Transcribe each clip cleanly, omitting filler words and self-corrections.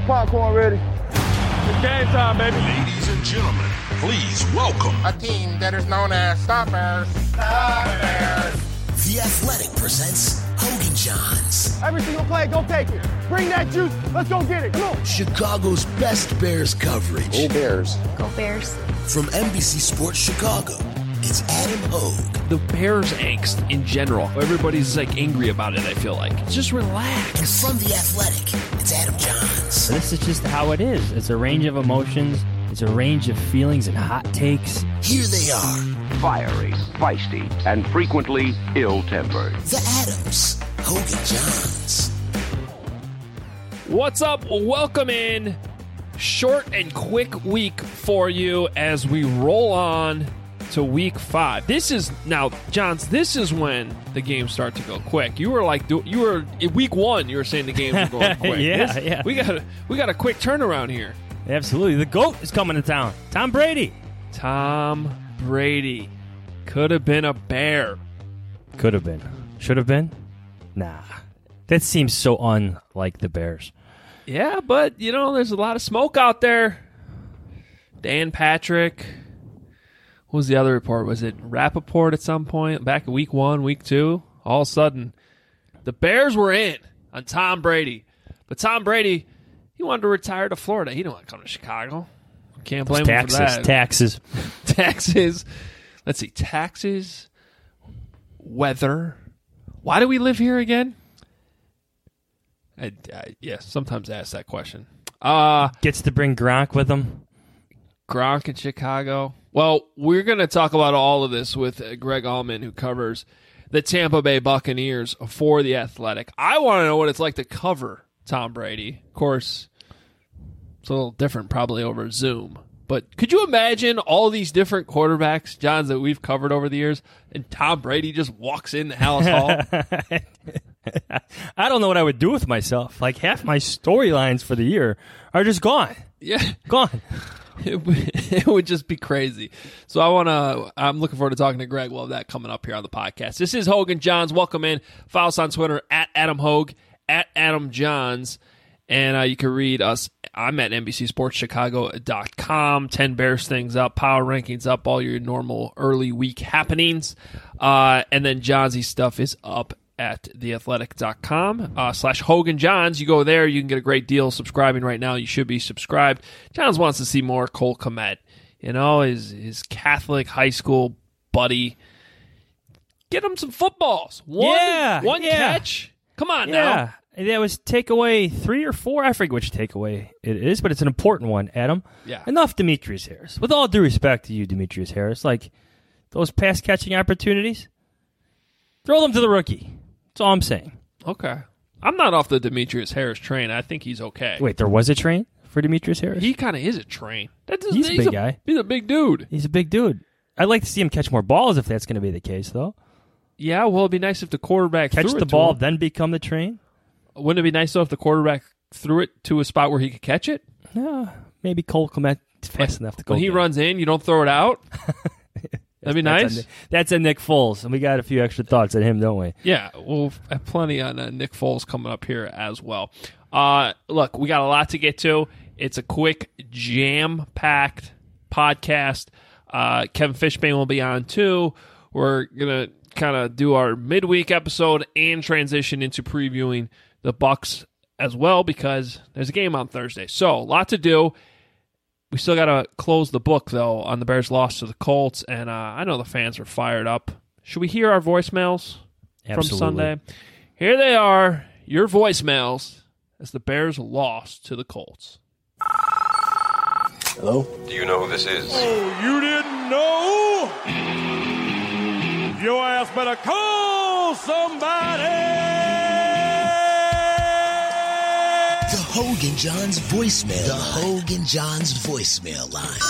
popcorn ready. It's game time, baby. Ladies and gentlemen, please welcome a team that is known as the Bears. The Bears. The Athletic presents Hogan Johns. Every single play, go take it. Bring that juice. Let's go get it. Come on. Chicago's best Bears coverage. Go Bears. Go Bears. From NBC Sports Chicago, it's Adam Hogue. The Bears angst in general. Everybody's like angry about it, I feel like. Just relax. And from The Athletic, it's Adam Johns. This is just how it is. It's a range of emotions. It's a range of feelings and hot takes. Here they are. Fiery, feisty, and frequently ill-tempered. The Adams. Hogan Johns. What's up? Welcome in. Short and quick week for you as we roll on to week 5. This is now, Johns, this is when the games start to go quick. You were in week 1, you were saying the games were going quick. Yeah. We got a quick turnaround here. Absolutely. The GOAT is coming to town. Tom Brady. Tom Brady could have been a Bear. Could have been. Should have been? Nah. That seems so unlike the Bears. Yeah, but, there's a lot of smoke out there. Dan Patrick. What was the other report? Was it Rappaport at some point? Back in week 1, week 2? All of a sudden, the Bears were in on Tom Brady. But Tom Brady, he wanted to retire to Florida. He didn't want to come to Chicago. Can't blame him for that. Taxes. Let's see. Taxes. Weather. Why do we live here again? Sometimes I ask that question. Gets to bring Gronk with him. Gronk in Chicago. Well, we're going to talk about all of this with Greg Allman, who covers the Tampa Bay Buccaneers for The Athletic. I want to know what it's like to cover Tom Brady. Of course, it's a little different probably over Zoom. But could you imagine all these different quarterbacks, Johns, that we've covered over the years, and Tom Brady just walks into Hallis Hall? I don't know what I would do with myself. Like, half my storylines for the year are just gone. Yeah. Gone. It would just be crazy. So I'm looking forward to talking to Greg. We'll have that coming up here on the podcast. This is Hogan Johns. Welcome in. Follow us on Twitter at Adam Hogue, at Adam Johns. And you can read us. I'm at NBCSportsChicago.com. 10 Bears things up, power rankings up, all your normal early week happenings. And then Johnsy stuff is up at theathletic.com /Hogan Johns. You go there, you can get a great deal subscribing right now. You should be subscribed. Johns wants to see more Cole Kmet. His Catholic high school buddy. Get him some footballs. One catch. Come on now. That was takeaway 3 or 4. I forget which takeaway it is, but it's an important one, Adam. Yeah. Enough Demetrius Harris. With all due respect to you, Demetrius Harris, like those pass catching opportunities, throw them to the rookie. That's all I'm saying. Okay. I'm not off the Demetrius Harris train. I think he's okay. Wait, there was a train for Demetrius Harris? He kind of is a train. He's a big guy. He's a big dude. He's a big dude. I'd like to see him catch more balls if that's going to be the case, though. Yeah, well, it'd be nice if the quarterback catch threw the it ball, to him. then become the train. Wouldn't it be nice, though, if the quarterback threw it to a spot where he could catch it? Yeah, maybe Cole Kmet fast enough to go. When he runs in, you don't throw it out? That'd be nice. That's a Nick Foles, and we got a few extra thoughts on him, don't we? Yeah, we'll have plenty on Nick Foles coming up here as well. Look, we got a lot to get to. It's a quick, jam-packed podcast. Kevin Fishbain will be on, too. We're going to kind of do our midweek episode and transition into previewing the Bucs as well because there's a game on Thursday. So, a lot to do. We still got to close the book, though, on the Bears' loss to the Colts, and I know the fans are fired up. Should we hear our voicemails from Sunday? Here they are, your voicemails, as the Bears lost to the Colts. Hello? Do you know who this is? Oh, you didn't know? Your ass better call somebody! The Hogan Johns voicemail. The Hogan Johns voicemail line.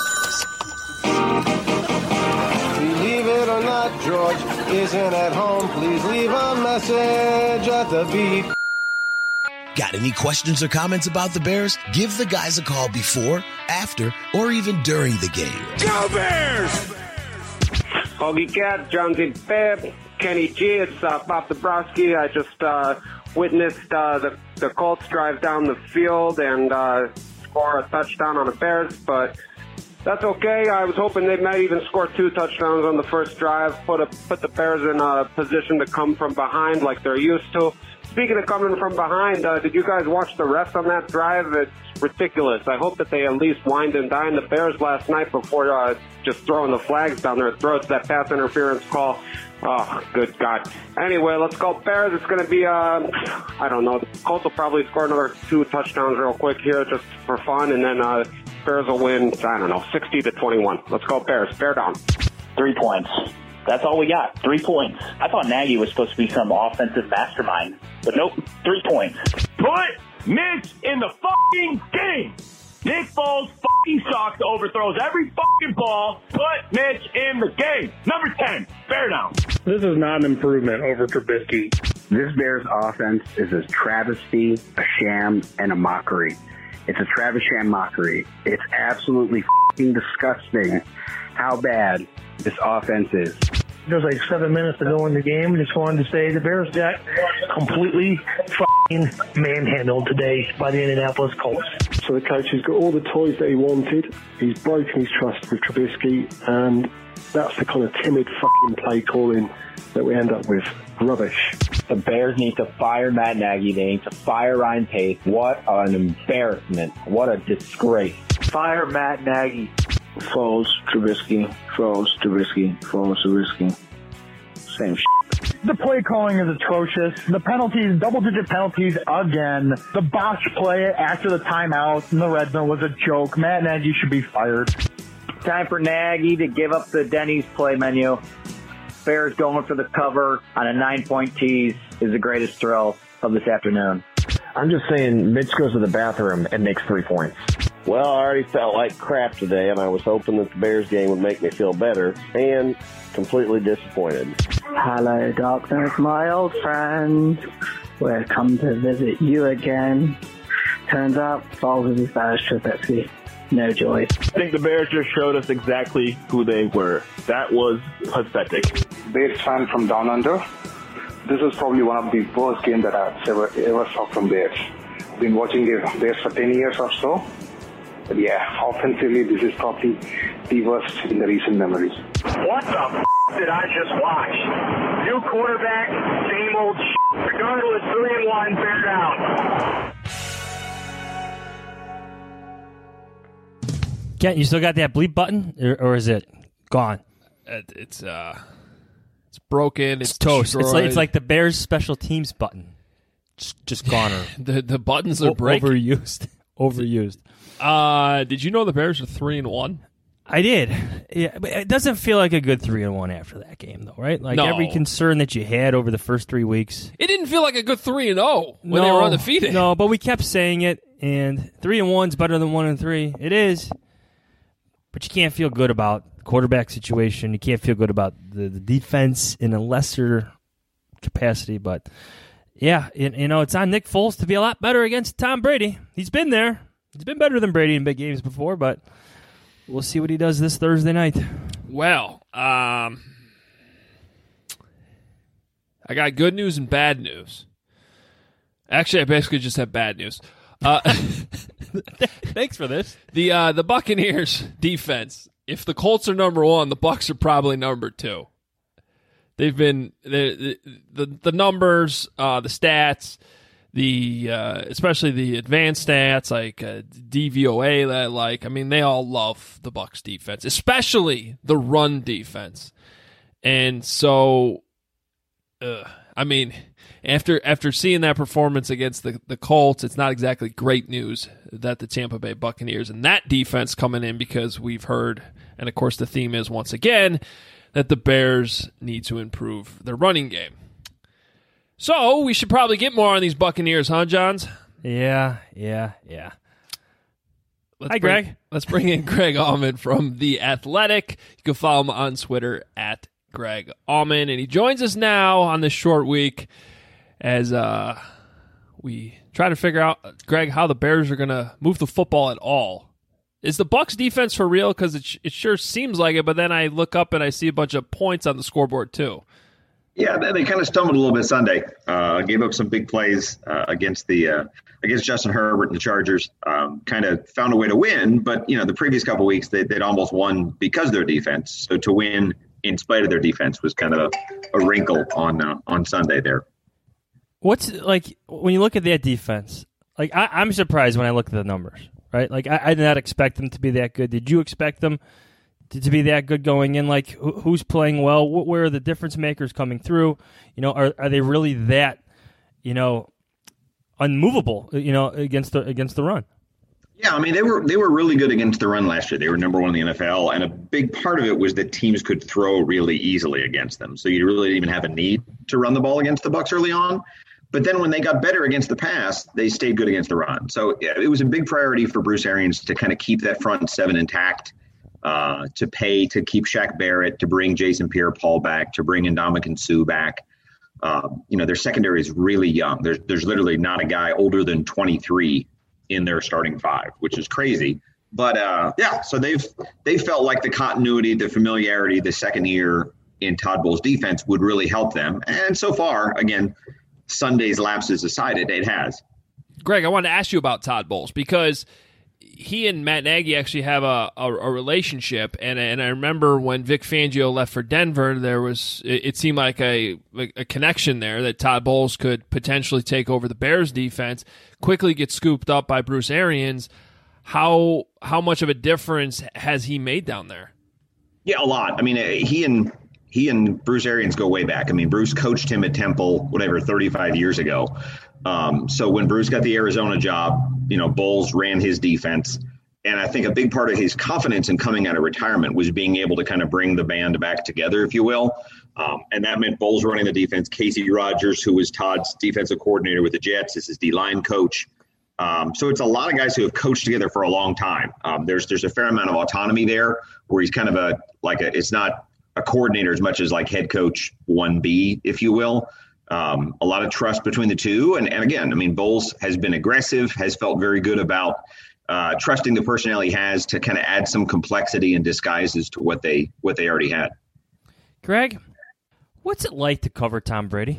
Believe it or not, George isn't at home. Please leave a message at the beep. Got any questions or comments about the Bears? Give the guys a call before, after, or even during the game. Go Bears! Hoagie Cat, Johnsy Pep, Kenny G. It's Bob Dabrowski. I just witnessed the Colts drive down the field and score a touchdown on the Bears, but that's okay. I was hoping they might even score 2 touchdowns on the first drive, put the Bears in a position to come from behind like they're used to. Speaking of coming from behind, did you guys watch the refs on that drive? It's ridiculous. I hope that they at least wined and dined the Bears last night before just throwing the flags down their throats, that pass interference call. Oh, good God. Anyway, let's go Bears. It's going to be, I don't know, the Colts will probably score another 2 touchdowns real quick here just for fun, and then Bears will win, I don't know, 60-21. Let's go Bears. Bear down. 3 points. That's all we got. 3 points. I thought Nagy was supposed to be some offensive mastermind, but nope, 3 points. Put Mitch in the fucking game. Nick Foles fucking sucks, overthrows every fucking ball. Put Mitch in the game. Number 10, bear down. This is not an improvement over Trubisky. This Bears offense is a travesty, a sham, and a mockery. It's a Travis sham mockery. It's absolutely fucking disgusting how bad this offense is. There's like 7 minutes to go in the game. Just wanted to say the Bears got completely fucking manhandled today by the Indianapolis Colts. So the coach has got all the toys that he wanted. He's broken his trust with Trubisky, and that's the kind of timid fucking play calling that we end up with. Rubbish. The Bears need to fire Matt Nagy. They need to fire Ryan Pace. What an embarrassment. What a disgrace. Fire Matt Nagy. Foles, Trubisky, Foles, Trubisky, Foles, Trubisky. Same shit. The play calling is atrocious. The penalties, double-digit penalties again. The botch play after the timeout in the red zone was a joke. Matt Nagy should be fired. Time for Nagy to give up the Denny's play menu. Bears going for the cover on a 9-point tease is the greatest thrill of this afternoon. I'm just saying Mitch goes to the bathroom and makes 3 points. Well, I already felt like crap today, and I was hoping that the Bears game would make me feel better, and completely disappointed. Hello, darkness, my old friend. We're come to visit you again. Turns out, Foles is as bad as Trubisky. No joy. I think the Bears just showed us exactly who they were. That was pathetic. Bears fan from down under. This is probably one of the worst games that I've ever saw from Bears. I've been watching the Bears for 10 years or so. But yeah, offensively, this is probably the worst in the recent memories. What the did I just watch? New quarterback, same old Regardless, 3-1, bear down. Kent, you still got that bleep button, or is it gone? It's broken. It's toast. Destroyed. It's like the Bears special teams button. Just gone. the buttons are breaking. Overused. Did you know the Bears are 3-1? I did. Yeah, but it doesn't feel like a good 3-1 after that game, though, right? Like every concern that you had over the first 3 weeks. It didn't feel like a good 3-0 when they were undefeated. No, but we kept saying it, and 3-1 is better than 1-3. It is, but you can't feel good about the quarterback situation. You can't feel good about the defense in a lesser capacity. But yeah, it's on Nick Foles to be a lot better against Tom Brady. He's been there. He's been better than Brady in big games before, but we'll see what he does this Thursday night. Well, I got good news and bad news. Actually, I basically just have bad news. Thanks for this. The Buccaneers defense. If the Colts are number 1, the Bucs are probably number 2. They've been the numbers, the stats. Especially the advanced stats like DVOA that I like. I mean, they all love the Bucs defense, especially the run defense. And so, I mean, after seeing that performance against the Colts, it's not exactly great news that the Tampa Bay Buccaneers and that defense coming in, because we've heard, and of course the theme is once again, that the Bears need to improve their running game. So, we should probably get more on these Buccaneers, huh, Johns? Yeah. Hi, Greg. Let's bring in Greg Auman from The Athletic. You can follow him on Twitter at Greg Auman. And he joins us now on this short week as we try to figure out, Greg, how the Bears are going to move the football at all. Is the Bucs defense for real? Because it sure seems like it, but then I look up and I see a bunch of points on the scoreboard, too. Yeah, they kind of stumbled a little bit Sunday. Gave up some big plays against Justin Herbert and the Chargers. Kind of found a way to win, but the previous couple of weeks they'd almost won because of their defense. So to win in spite of their defense was kind of a wrinkle on Sunday there. What's like when you look at that defense? Like I'm surprised when I look at the numbers. Right? Like I did not expect them to be that good. Did you expect them to be that good going in? Like who's playing well? Where are the difference makers coming through? Are they really that unmovable? Against the run. Yeah, I mean they were really good against the run last year. They were number one in the NFL, and a big part of it was that teams could throw really easily against them. So you really didn't even have a need to run the ball against the Bucs early on. But then when they got better against the pass, they stayed good against the run. So it was a big priority for Bruce Arians to kind of keep that front seven intact, to keep Shaq Barrett, to bring Jason Pierre-Paul back, to bring Ndamukong Suh back. Their secondary is really young. There's literally not a guy older than 23 in their starting five, which is crazy. But so they felt like the continuity, the familiarity, the second year in Todd Bowles' defense would really help them. And so far, again, Sunday's lapses aside, it has. Greg, I wanted to ask you about Todd Bowles because he and Matt Nagy actually have a relationship, and I remember when Vic Fangio left for Denver, it seemed like a connection there that Todd Bowles could potentially take over the Bears defense, quickly get scooped up by Bruce Arians. How much of a difference has he made down there? Yeah, a lot. I mean, he and Bruce Arians go way back. I mean, Bruce coached him at Temple, 35 years ago. So when Bruce got the Arizona job, Bowles ran his defense. And I think a big part of his confidence in coming out of retirement was being able to kind of bring the band back together, if you will. And that meant Bowles running the defense. Casey Rogers, who was Todd's defensive coordinator with the Jets, is his D-line coach. So it's a lot of guys who have coached together for a long time. There's a fair amount of autonomy there where he's kind of it's not a coordinator as much as like head coach 1B, if you will. A lot of trust between the two. And again, I mean, Bowles has been aggressive, has felt very good about trusting the personnel he has to kind of add some complexity and disguises to what they already had. Greg, what's it like to cover Tom Brady?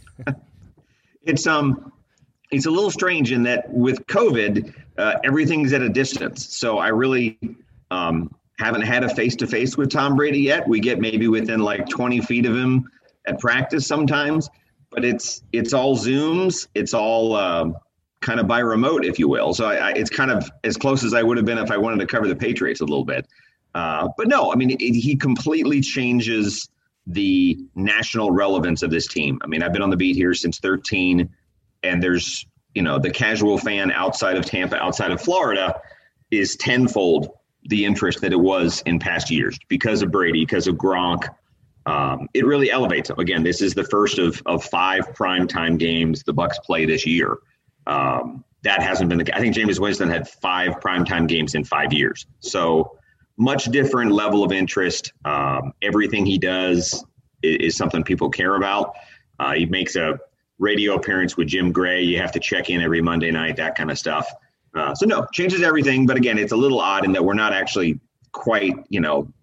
It's a little strange in that with COVID, everything's at a distance. So I really haven't had a face-to-face with Tom Brady yet. We get maybe within like 20 feet of him at practice sometimes, but it's all Zooms. It's all kind of by remote, if you will. So it's kind of as close as I would have been if I wanted to cover the Patriots a little bit. But no, I mean, he completely changes the national relevance of this team. I mean, I've been on the beat here since 13, and there's, the casual fan outside of Tampa, outside of Florida is tenfold the interest that it was in past years because of Brady, because of Gronk. It really elevates them. Again, this is the first of 5 primetime games the Bucs play this year. That hasn't been I think Jameis Winston had 5 primetime games in 5 years. So much different level of interest. Everything he does is something people care about. He makes a radio appearance with Jim Gray. You have to check in every Monday night, that kind of stuff. So no, changes everything. But again, it's a little odd in that we're not actually quite, in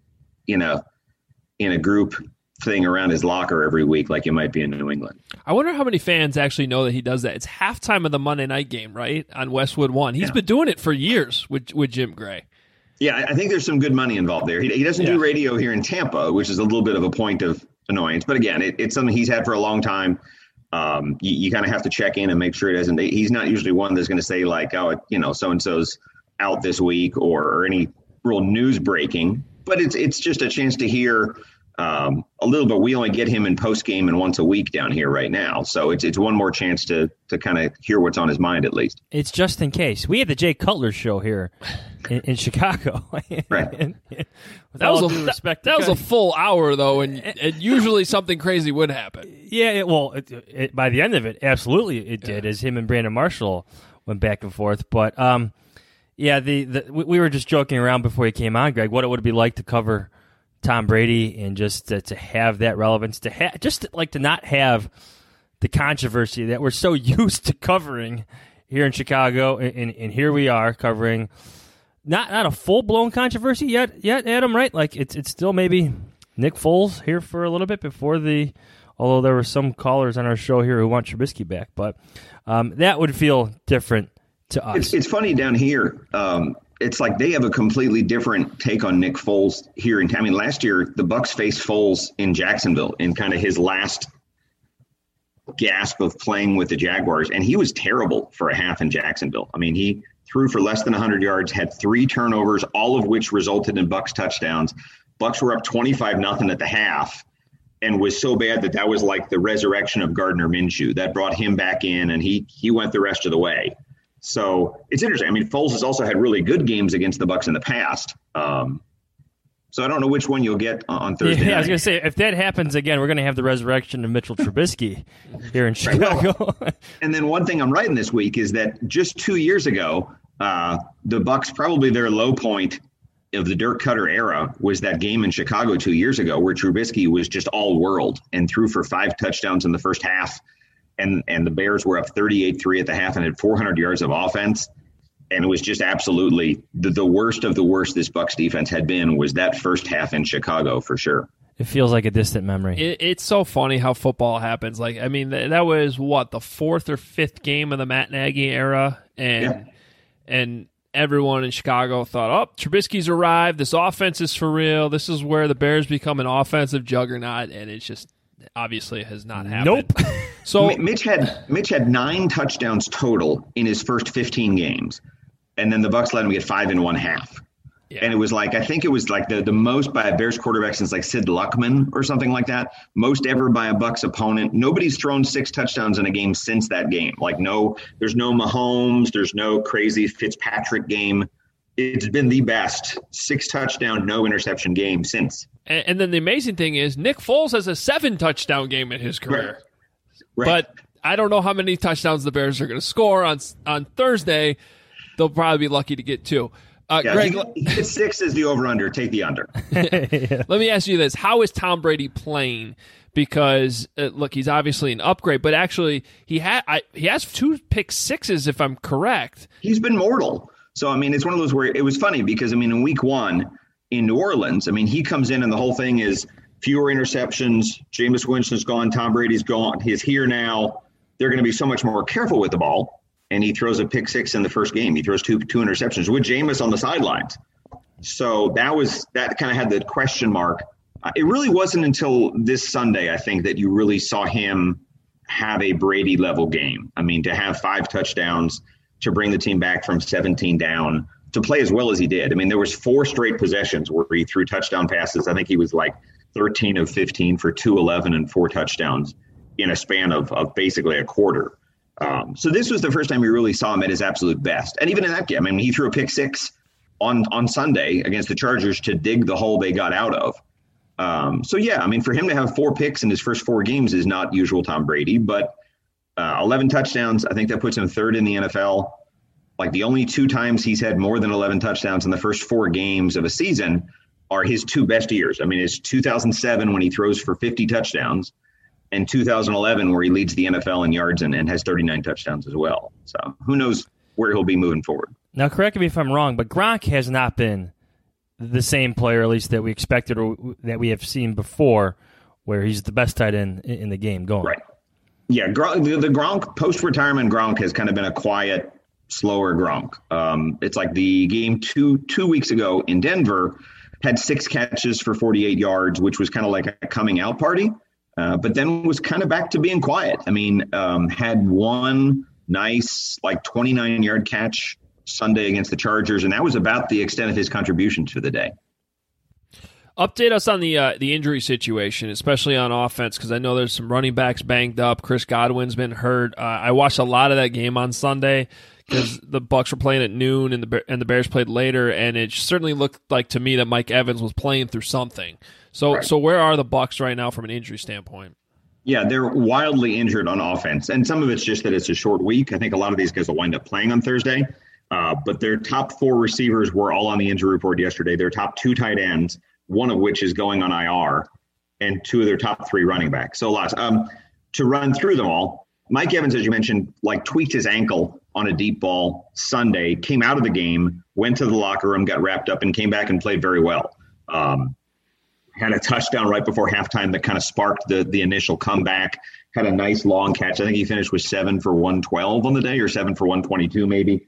a group thing around his locker every week like you might be in New England. I wonder how many fans actually know that he does that. It's halftime of the Monday night game, right, on Westwood One. He's been doing it for years with Jim Gray. Yeah, I think there's some good money involved there. He doesn't do radio here in Tampa, which is a little bit of a point of annoyance. But again, it's something he's had for a long time. You kind of have to check in and make sure it doesn't. He's not usually one that's going to say like, oh, so-and-so's out this week or any real news breaking. But it's just a chance to hear a little bit. We only get him in post game and once a week down here right now. So it's one more chance to kind of hear what's on his mind at least. It's just in case. We had the Jay Cutler show here in Chicago. Right. That was a full hour though, and usually something crazy would happen. Yeah. By the end of it, absolutely it did, as him and Brandon Marshall went back and forth. But we were just joking around before he came on, Greg, what it would be like to cover Tom Brady and just to have that relevance, to not have the controversy that we're so used to covering here in Chicago, and here we are covering not a full blown controversy yet, Adam, right? Like it's still maybe Nick Foles here for a little bit before the although there were some callers on our show here who want Trubisky back. But that would feel different to us. It's funny down here. It's like they have a completely different take on Nick Foles here in town. I mean, last year, the Bucs faced Foles in Jacksonville in kind of his last gasp of playing with the Jaguars, and he was terrible for a half in Jacksonville. I mean, he threw for less than 100 yards, had 3 turnovers, all of which resulted in Bucs touchdowns. Bucs were up 25-0 at the half and was so bad that was like the resurrection of Gardner Minshew. That brought him back in, and he went the rest of the way. So it's interesting. I mean, Foles has also had really good games against the Bucs in the past. So I don't know which one you'll get on Thursday. Yeah, I was going to say, if that happens again, we're going to have the resurrection of Mitchell Trubisky here in Chicago. And then one thing I'm writing this week is that just 2 years ago, the Bucs, probably their low point of the Dirk Cutter era was that game in Chicago 2 years ago where Trubisky was just all world and threw for 5 touchdowns in the first half. And the Bears were up 38-3 at the half and had 400 yards of offense. And it was just absolutely the worst of the worst this Bucs defense had been was that first half in Chicago for sure. It feels like a distant memory. It's so funny how football happens. Like, I mean, that was what, the 4th or 5th game of the Matt Nagy era, and everyone in Chicago thought, "Oh, Trubisky's arrived. This offense is for real. This is where the Bears become an offensive juggernaut," and it's just obviously has not happened. Nope. So Mitch had 9 touchdowns total in his first 15 games, and then the Bucs let him get 5 in one half. Yeah. And it was like, I think it was like the most by a Bears quarterback since like Sid Luckman or something like that. Most ever by a Bucs opponent. Nobody's thrown 6 touchdowns in a game since that game. Like there's no Mahomes. There's no crazy Fitzpatrick game. It's been the best 6 touchdown, no interception game since. And then the amazing thing is Nick Foles has a 7-touchdown game in his career. Right. But I don't know how many touchdowns the Bears are going to score on Thursday. They'll probably be lucky to get 2. Greg, if 6 is the over-under, take the under. Let me ask you this. How is Tom Brady playing? Because, look, he's obviously an upgrade, but actually he has 2 pick sixes, if I'm correct. He's been mortal. So, I mean, it's one of those where it was funny because, I mean, in week 1 in New Orleans, I mean, he comes in and the whole thing is fewer interceptions. Jameis Winston's gone. Tom Brady's gone. He's here now. They're going to be so much more careful with the ball. And he throws a pick 6 in the first game. He throws two interceptions with Jameis on the sidelines. So that kind of had the question mark. It really wasn't until this Sunday, I think, that you really saw him have a Brady-level game. I mean, to have 5 touchdowns, to bring the team back from 17 down, to play as well as he did. I mean, there was 4 straight possessions where he threw touchdown passes. I think he was like 13 of 15 for 211 and 4 touchdowns in a span of basically a quarter. So this was the first time we really saw him at his absolute best. And even in that game, I mean, he threw a pick 6 on Sunday against the Chargers to dig the hole they got out of. So, yeah, I mean, for him to have 4 picks in his first 4 games is not usual Tom Brady, but 11 touchdowns, I think that puts him 3rd in the NFL. Like the only 2 times he's had more than 11 touchdowns in the first 4 games of a season are his 2 best years. I mean, it's 2007 when he throws for 50 touchdowns. And 2011, where he leads the NFL in yards and has 39 touchdowns as well. So who knows where he'll be moving forward. Now, correct me if I'm wrong, but Gronk has not been the same player, at least that we expected or that we have seen before, where he's the best tight end in the game going. Right. Yeah, the Gronk, post-retirement Gronk has kind of been a quiet, slower Gronk. It's like the game two weeks ago in Denver had 6 catches for 48 yards, which was kind of like a coming out party. But then was kind of back to being quiet. I mean, had one nice, like 29-yard catch Sunday against the Chargers, and that was about the extent of his contribution to the day. Update us on the injury situation, especially on offense, because I know there's some running backs banged up. Chris Godwin's been hurt. I watched a lot of that game on Sunday because the Bucs were playing at noon and the Bears played later, and it certainly looked like to me that Mike Evans was playing through something. So where are the Bucs right now from an injury standpoint? Yeah, they're wildly injured on offense, and some of it's just that it's a short week. I think a lot of these guys will wind up playing on Thursday, but their top 4 receivers were all on the injury report yesterday. Their top 2 tight ends, one of which is going on IR, and 2 of their top 3 running backs. So lots. To run through them all, Mike Evans, as you mentioned, tweaked his ankle on a deep ball Sunday, came out of the game, went to the locker room, got wrapped up, and came back and played very well. had a touchdown right before halftime that kind of sparked the initial comeback. Had a nice long catch. I think he finished with 7 for 112 on the day, or 7 for 122 maybe.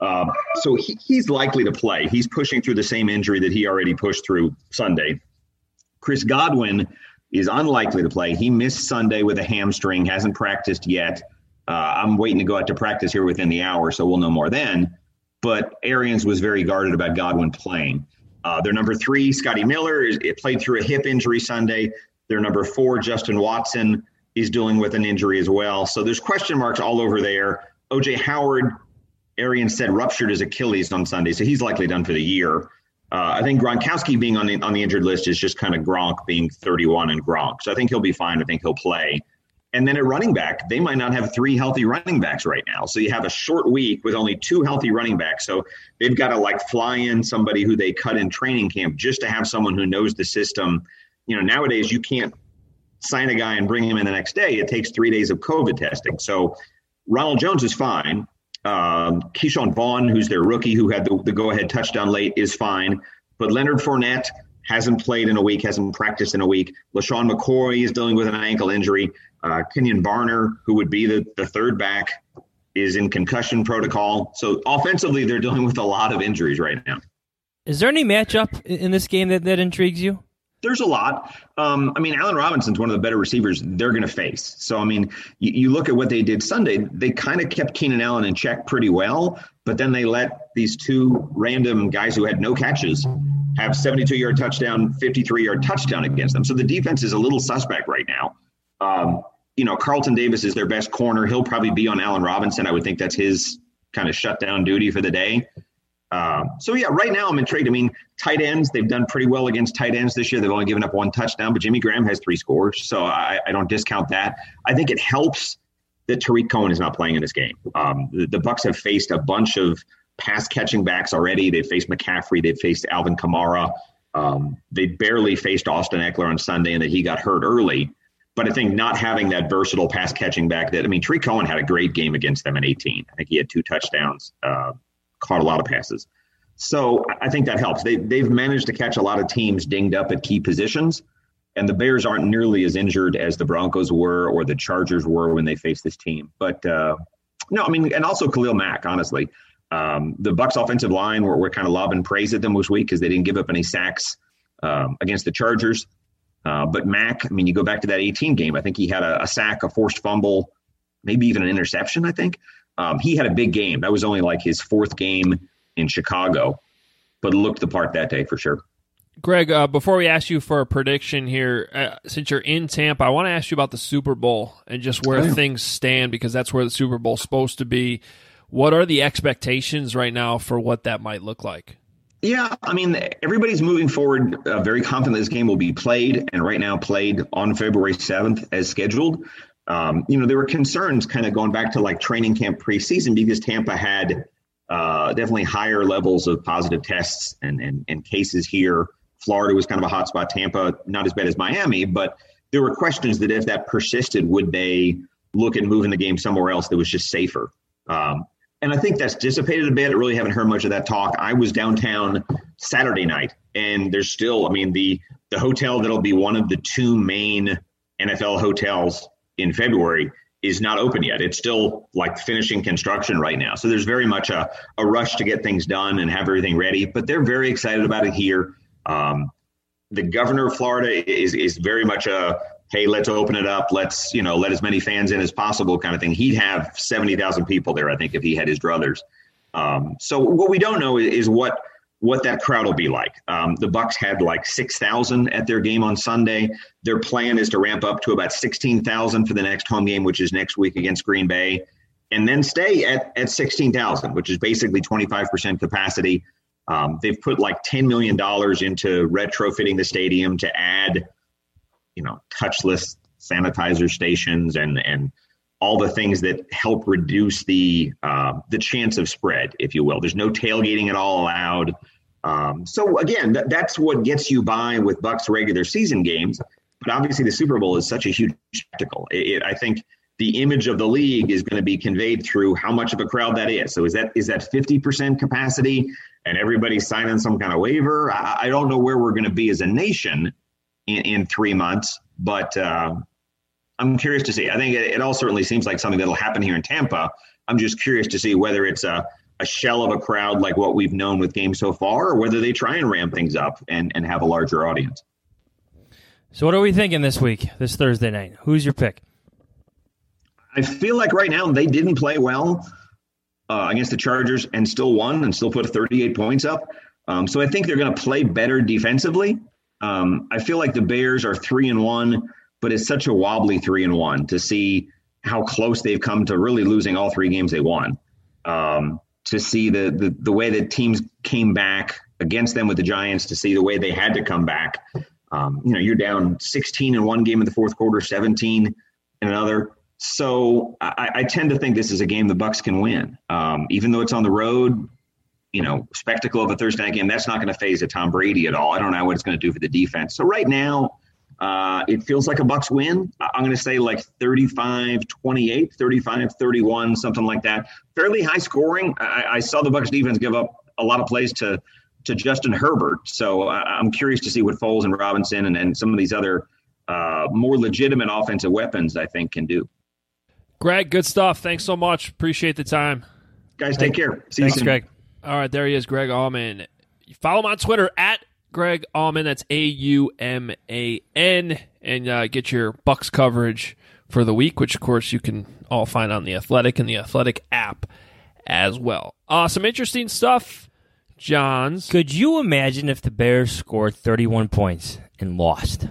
So he's likely to play. He's pushing through the same injury that he already pushed through Sunday. Chris Godwin is unlikely to play. He missed Sunday with a hamstring, hasn't practiced yet. I'm waiting to go out to practice here within the hour, so we'll know more then. But Arians was very guarded about Godwin playing. Their number 3, Scotty Miller, played through a hip injury Sunday. Their number 4, Justin Watson, is dealing with an injury as well. So there's question marks all over there. O.J. Howard, Arians said, ruptured his Achilles on Sunday, so he's likely done for the year. I think Gronkowski being on the injured list is just kind of Gronk being 31 and Gronk. So I think he'll be fine. I think he'll play. And then at running back, they might not have 3 healthy running backs right now. So you have a short week with only 2 healthy running backs. So they've got to fly in somebody who they cut in training camp just to have someone who knows the system. Nowadays you can't sign a guy and bring him in the next day. It takes 3 days of COVID testing. So Ronald Jones is fine. Keyshawn Vaughn, who's their rookie, who had the go-ahead touchdown late, is fine. But Leonard Fournette hasn't played in a week, hasn't practiced in a week. LaShawn McCoy is dealing with an ankle injury. Kenyon Barner, who would be the third back, is in concussion protocol. So offensively, they're dealing with a lot of injuries right now. Is there any matchup in this game that intrigues you? There's a lot. Allen Robinson's one of the better receivers they're going to face. So, you look at what they did Sunday, they kind of kept Keenan Allen in check pretty well, but then they let these 2 random guys who had no catches have 72-yard touchdown, 53-yard touchdown against them. So the defense is a little suspect right now. Carlton Davis is their best corner. He'll probably be on Allen Robinson. I would think that's his kind of shutdown duty for the day. Right now I'm intrigued. Tight ends, they've done pretty well against tight ends this year. They've only given up 1 touchdown, but Jimmy Graham has 3 scores. So I don't discount that. I think it helps that Tariq Cohen is not playing in this game. The Bucs have faced a bunch of pass catching backs already. They've faced McCaffrey. They've faced Alvin Kamara. They barely faced Austin Eckler on Sunday, and that he got hurt early. But I think not having that versatile pass catching back Tariq Cohen had a great game against them in 18. I think he had 2 touchdowns, caught a lot of passes. So I think that helps. They've managed to catch a lot of teams dinged up at key positions, and the Bears aren't nearly as injured as the Broncos were or the Chargers were when they faced this team. But and also Khalil Mack, honestly. The Bucs offensive line, we're kind of lobbing praise at them this week because they didn't give up any sacks against the Chargers. But Mack, you go back to that 18 game, I think he had a sack, a forced fumble, maybe even an interception, I think. He had a big game. That was only his 4th game in Chicago, but looked the part that day for sure. Greg, before we ask you for a prediction here, since you're in Tampa, I want to ask you about the Super Bowl and just where things stand, because that's where the Super Bowl is supposed to be. What are the expectations right now for what that might look like? Yeah, everybody's moving forward very confident this game will be played, and right now played on February 7th as scheduled. There were concerns kind of going back to training camp preseason because Tampa had definitely higher levels of positive tests and cases here. Florida was kind of a hot spot. Tampa, not as bad as Miami, but there were questions that if that persisted, would they look at moving the game somewhere else that was just safer? And I think that's dissipated a bit. I really haven't heard much of that talk. I was downtown Saturday night, and there's still, the hotel that'll be one of the 2 main NFL hotels in February is not open yet. It's still finishing construction right now. So there's very much a rush to get things done and have everything ready, but they're very excited about it here. The governor of Florida is very much hey, let's open it up. Let's, let as many fans in as possible kind of thing. He'd have 70,000 people there, I think, if he had his druthers. So what we don't know is what that crowd will be like. The Bucs had 6,000 at their game on Sunday. Their plan is to ramp up to about 16,000 for the next home game, which is next week against Green Bay, and then stay at 16,000, which is basically 25% capacity. They've put $10 million into retrofitting the stadium to add, touchless sanitizer stations and all the things that help reduce the chance of spread, if you will. There's no tailgating at all allowed. So again, that's what gets you by with Bucs regular season games. But obviously the Super Bowl is such a huge spectacle. I think the image of the league is going to be conveyed through how much of a crowd that is. So is that 50% capacity and everybody's signing some kind of waiver? I don't know where we're going to be as a nation, in 3 months. But I'm curious to see. I think it all certainly seems like something that'll happen here in Tampa. I'm just curious to see whether it's a shell of a crowd like what we've known with games so far, or whether they try and ramp things up and have a larger audience. So what are we thinking this week, this Thursday night? Who's your pick? I feel like right now they didn't play well against the Chargers and still won and still put 38 points up. So I think they're going to play better defensively. I feel like the Bears are 3-1, but it's such a wobbly 3-1 to see how close they've come to really losing all 3 games they won. To see the way that teams came back against them with the Giants, to see the way they had to come back. You're down 16 in one game in the fourth quarter, 17 in another. So I tend to think this is a game the Bucs can win. Even though it's on the road, spectacle of a Thursday night game, that's not going to phase a Tom Brady at all. I don't know what it's going to do for the defense. So right now, it feels like a Bucs win. I'm going to say like 35-28, 35-31, something like that. Fairly high scoring. I saw the Bucs defense give up a lot of plays to Justin Herbert. So I'm curious to see what Foles and Robinson and some of these other more legitimate offensive weapons, I think, can do. Greg, good stuff. Thanks so much. Appreciate the time. Guys, take care. See you soon. Greg. All right, there he is, Greg Auman. Follow him on Twitter at Greg Auman. That's AUMAN. And get your Bucs coverage for the week, which, of course, you can all find on The Athletic and The Athletic app as well. Some interesting stuff, Johns. Could you imagine if the Bears scored 31 points and lost?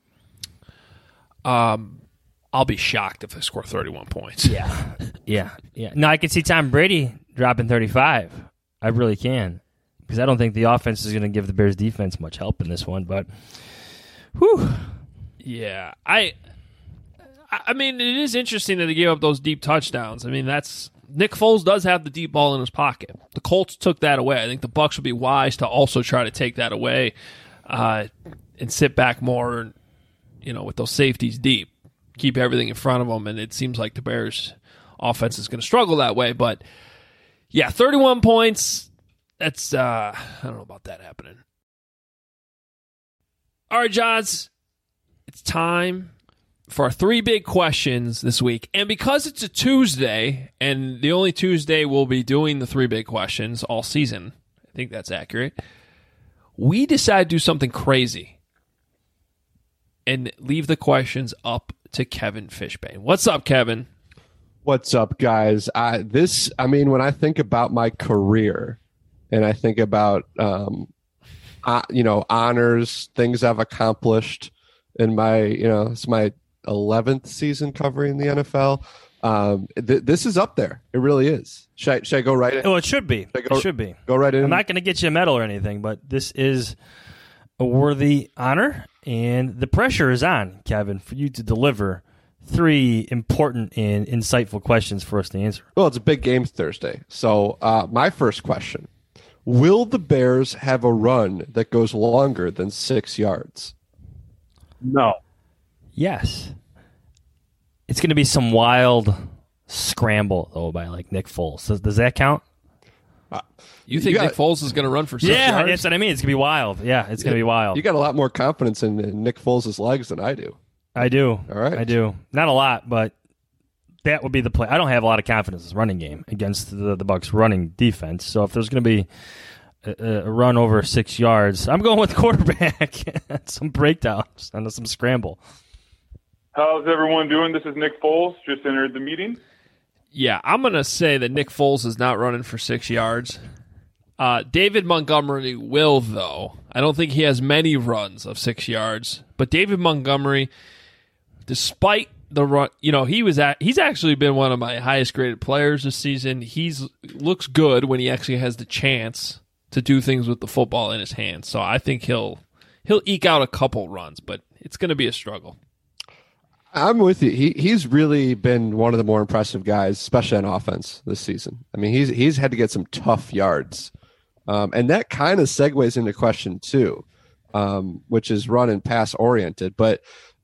I'll be shocked if they score 31 points. Yeah. No, I can see Tom Brady dropping 35. I really can. Because I don't think the offense is going to give the Bears defense much help in this one. But, whew. Yeah. I mean, it is interesting that they gave up those deep touchdowns. I mean, Nick Foles does have the deep ball in his pocket. The Colts took that away. I think the Bucs would be wise to also try to take that away and sit back more, with those safeties deep. Keep everything in front of them, and it seems like the Bears' offense is going to struggle that way. But, yeah, 31 points, that's, I don't know about that happening. All right, Johns, it's time for our 3 big questions this week. And because it's a Tuesday, and the only Tuesday we'll be doing the 3 big questions all season, I think that's accurate, we decided to do something crazy and leave the questions up to Kevin Fishbane. What's up, Kevin? What's up, guys? When I think about my career and I think about, honors, things I've accomplished in my, it's my 11th season covering the NFL. This is up there. It really is. Should I go right in? Well, it should be. It should be. Go right in. I'm not going to get you a medal or anything, but this is a worthy honor. And the pressure is on, Kevin, for you to deliver 3 important and insightful questions for us to answer. Well, it's a big game Thursday. So my first question, will the Bears have a run that goes longer than 6 yards? No. Yes. It's going to be some wild scramble, though, by like Nick Foles. Does that count? You think Nick Foles is going to run for 6 yards? Yeah, that's what I mean. It's going to be wild. Yeah, it's going to be wild. You got a lot more confidence in Nick Foles' legs than I do. I do. All right. I do. Not a lot, but that would be the play. I don't have a lot of confidence in this running game against the Bucs running defense. So if there's going to be a run over 6 yards, I'm going with the quarterback. Some breakdowns and some scramble. How's everyone doing? This is Nick Foles. Just entered the meeting. Yeah, I'm going to say that Nick Foles is not running for 6 yards. David Montgomery will, though. I don't think he has many runs of 6 yards. But David Montgomery, despite the run, he's actually been one of my highest graded players this season. Looks good when he actually has the chance to do things with the football in his hands. So I think he'll eke out a couple runs, but it's going to be a struggle. I'm with you. He's really been one of the more impressive guys, especially on offense this season. I mean, he's had to get some tough yards. And that kind of segues into question 2, which is run and pass oriented. But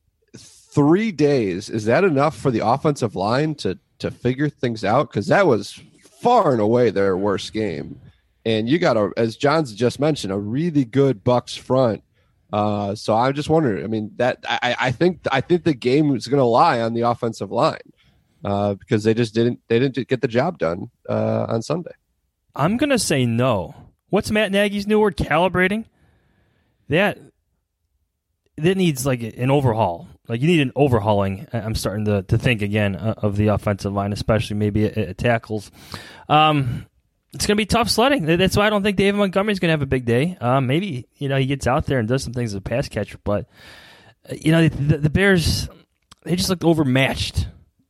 3 days, is that enough for the offensive line to figure things out? Because that was far and away their worst game. And you got, as John's just mentioned, a really good Bucs front So I'm just wondering. I mean, that I think the game is going to lie on the offensive line because they didn't get the job done on Sunday. I'm going to say no. What's Matt Nagy's new word? Calibrating? That needs like an overhaul. Like you need an overhauling. I'm starting to think again of the offensive line, especially maybe at tackles. It's going to be tough sledding. That's why I don't think David Montgomery's going to have a big day. Maybe he gets out there and does some things as a pass catcher, but the Bears, they just looked overmatched,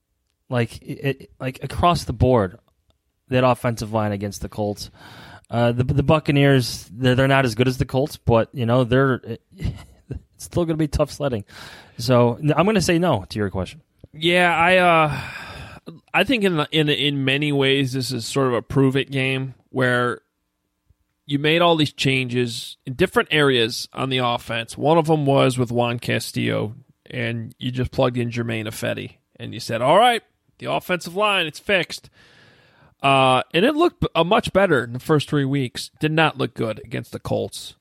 like across the board. That offensive line against the Colts. The Buccaneers, they're not as good as the Colts, but they're it's still going to be tough sledding. So I'm going to say no to your question. Yeah, I think in many ways this is sort of a prove it game where you made all these changes in different areas on the offense. One of them was with Juan Castillo, and you just plugged in Jermaine Ifedi, and you said, "All right, the offensive line, it's fixed." And it looked much better in the first 3 weeks. Did not look good against the Colts.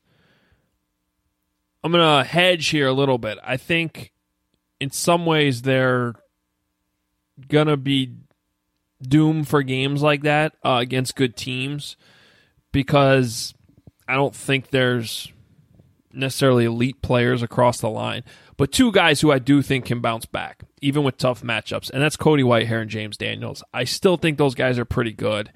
I'm going to hedge here a little bit. I think in some ways they're going to be doomed for games like that against good teams because I don't think there's necessarily elite players across the line. But two guys who I do think can bounce back, even with tough matchups, and that's Cody Whitehair and James Daniels. I still think those guys are pretty good.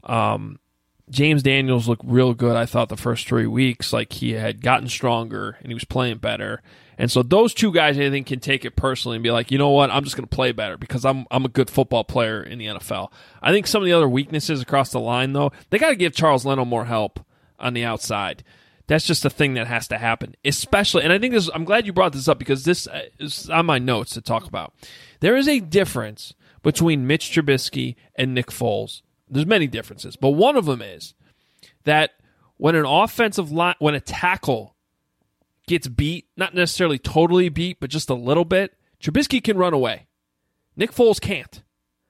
James Daniels looked real good, I thought, the first 3 weeks. Like he had gotten stronger and he was playing better. And so those two guys, I think, can take it personally and be like, you know what, I'm just going to play better because I'm a good football player in the NFL. I think some of the other weaknesses across the line, though, they got to give Charles Leno more help on the outside. That's just a thing that has to happen, especially, and I think I'm glad you brought this up because this is on my notes to talk about. There is a difference between Mitch Trubisky and Nick Foles. There's many differences, but one of them is that when an offensive line, when a tackle gets beat, not necessarily totally beat, but just a little bit, Trubisky can run away. Nick Foles can't.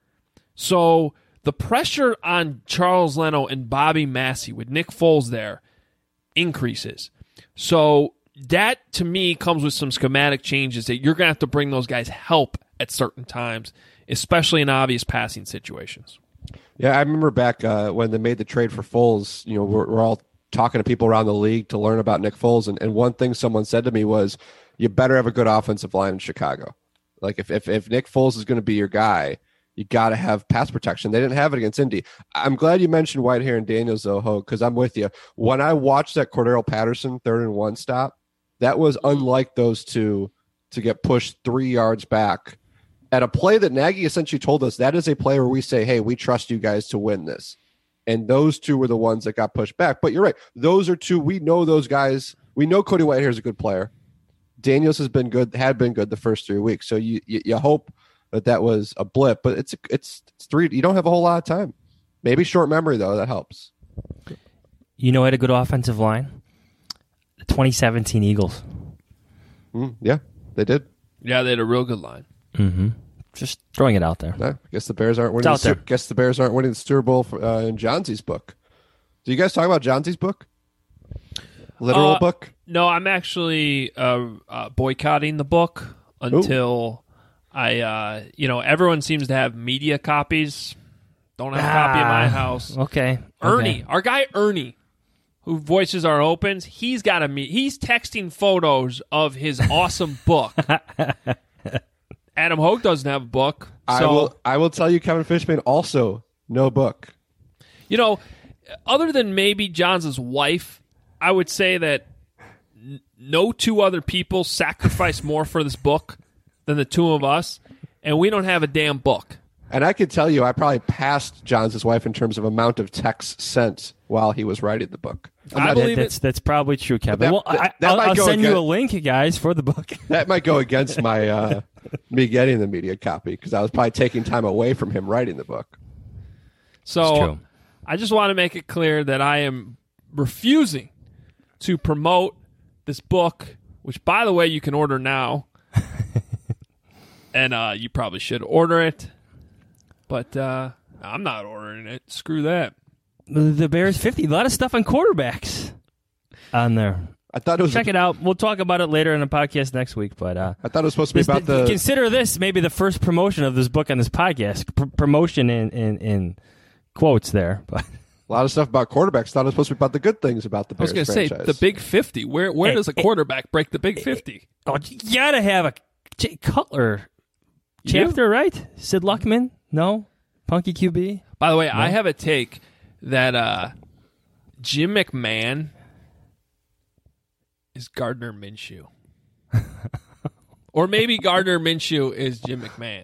So the pressure on Charles Leno and Bobby Massey with Nick Foles there increases. So that, to me, comes with some schematic changes that you're going to have to bring those guys help at certain times, especially in obvious passing situations. Yeah, I remember back when they made the trade for Foles, we're all talking to people around the league to learn about Nick Foles, and one thing someone said to me was, you better have a good offensive line in Chicago. Like, if Nick Foles is going to be your guy, you got to have pass protection. They didn't have it against Indy. I'm glad you mentioned Whitehair and Daniels, though, Ho, because I'm with you. When I watched that Cordero Patterson 3rd and 1 stop, that was unlike those two to get pushed 3 yards back at a play that Nagy essentially told us that is a play where we say, hey, we trust you guys to win this. And those two were the ones that got pushed back. But you're right. Those are two. We know those guys. We know Cody Whitehair is a good player. Daniels had been good the first 3 weeks. So you hope that was a blip, but it's three. You don't have a whole lot of time. Maybe short memory, though. That helps. Had a good offensive line? The 2017 Eagles. Yeah, they did. Yeah, they had a real good line. Mm-hmm. Just throwing it out there. I guess the Bears aren't winning. Guess the Bears aren't winning the Super Bowl in Johnsey's book. Do you guys talk about Johnsey's book? Literal book? No, I'm actually boycotting the book until everyone seems to have media copies. Don't have a copy in my house. Okay. Ernie, our guy Ernie, who voices our opens, he's got a he's texting photos of his awesome book. Adam Hogue doesn't have a book. So I will tell you, Kevin Fishman also no book. Other than maybe Johns' wife, I would say that no two other people sacrifice more for this book than the two of us, and we don't have a damn book. And I could tell you, I probably passed Johns' wife in terms of amount of texts sent while he was writing the book. I believe that's probably true, Kevin. I'll send you a link, guys, for the book. That might go against my me getting the media copy because I was probably taking time away from him writing the book. So I just want to make it clear that I am refusing to promote this book, which, by the way, you can order now. And you probably should order it. But I'm not ordering it. Screw that. The Bears 50. A lot of stuff on quarterbacks on there. I thought it was. Check it out. We'll talk about it later in the podcast next week. But I thought it was supposed to be about the. Consider this maybe the first promotion of this book on this podcast. Promotion in quotes there, but. A lot of stuff about quarterbacks. Thought it was supposed to be about the good things about the Bears I was going to say, the Big 50. Where does a quarterback break the Big 50? Oh, you got to have a Jay Cutler chapter, right? Sid Luckman? No? Punky QB? By the way, No? I have a take that Jim McMahon is Gardner Minshew. Or maybe Gardner Minshew is Jim McMahon.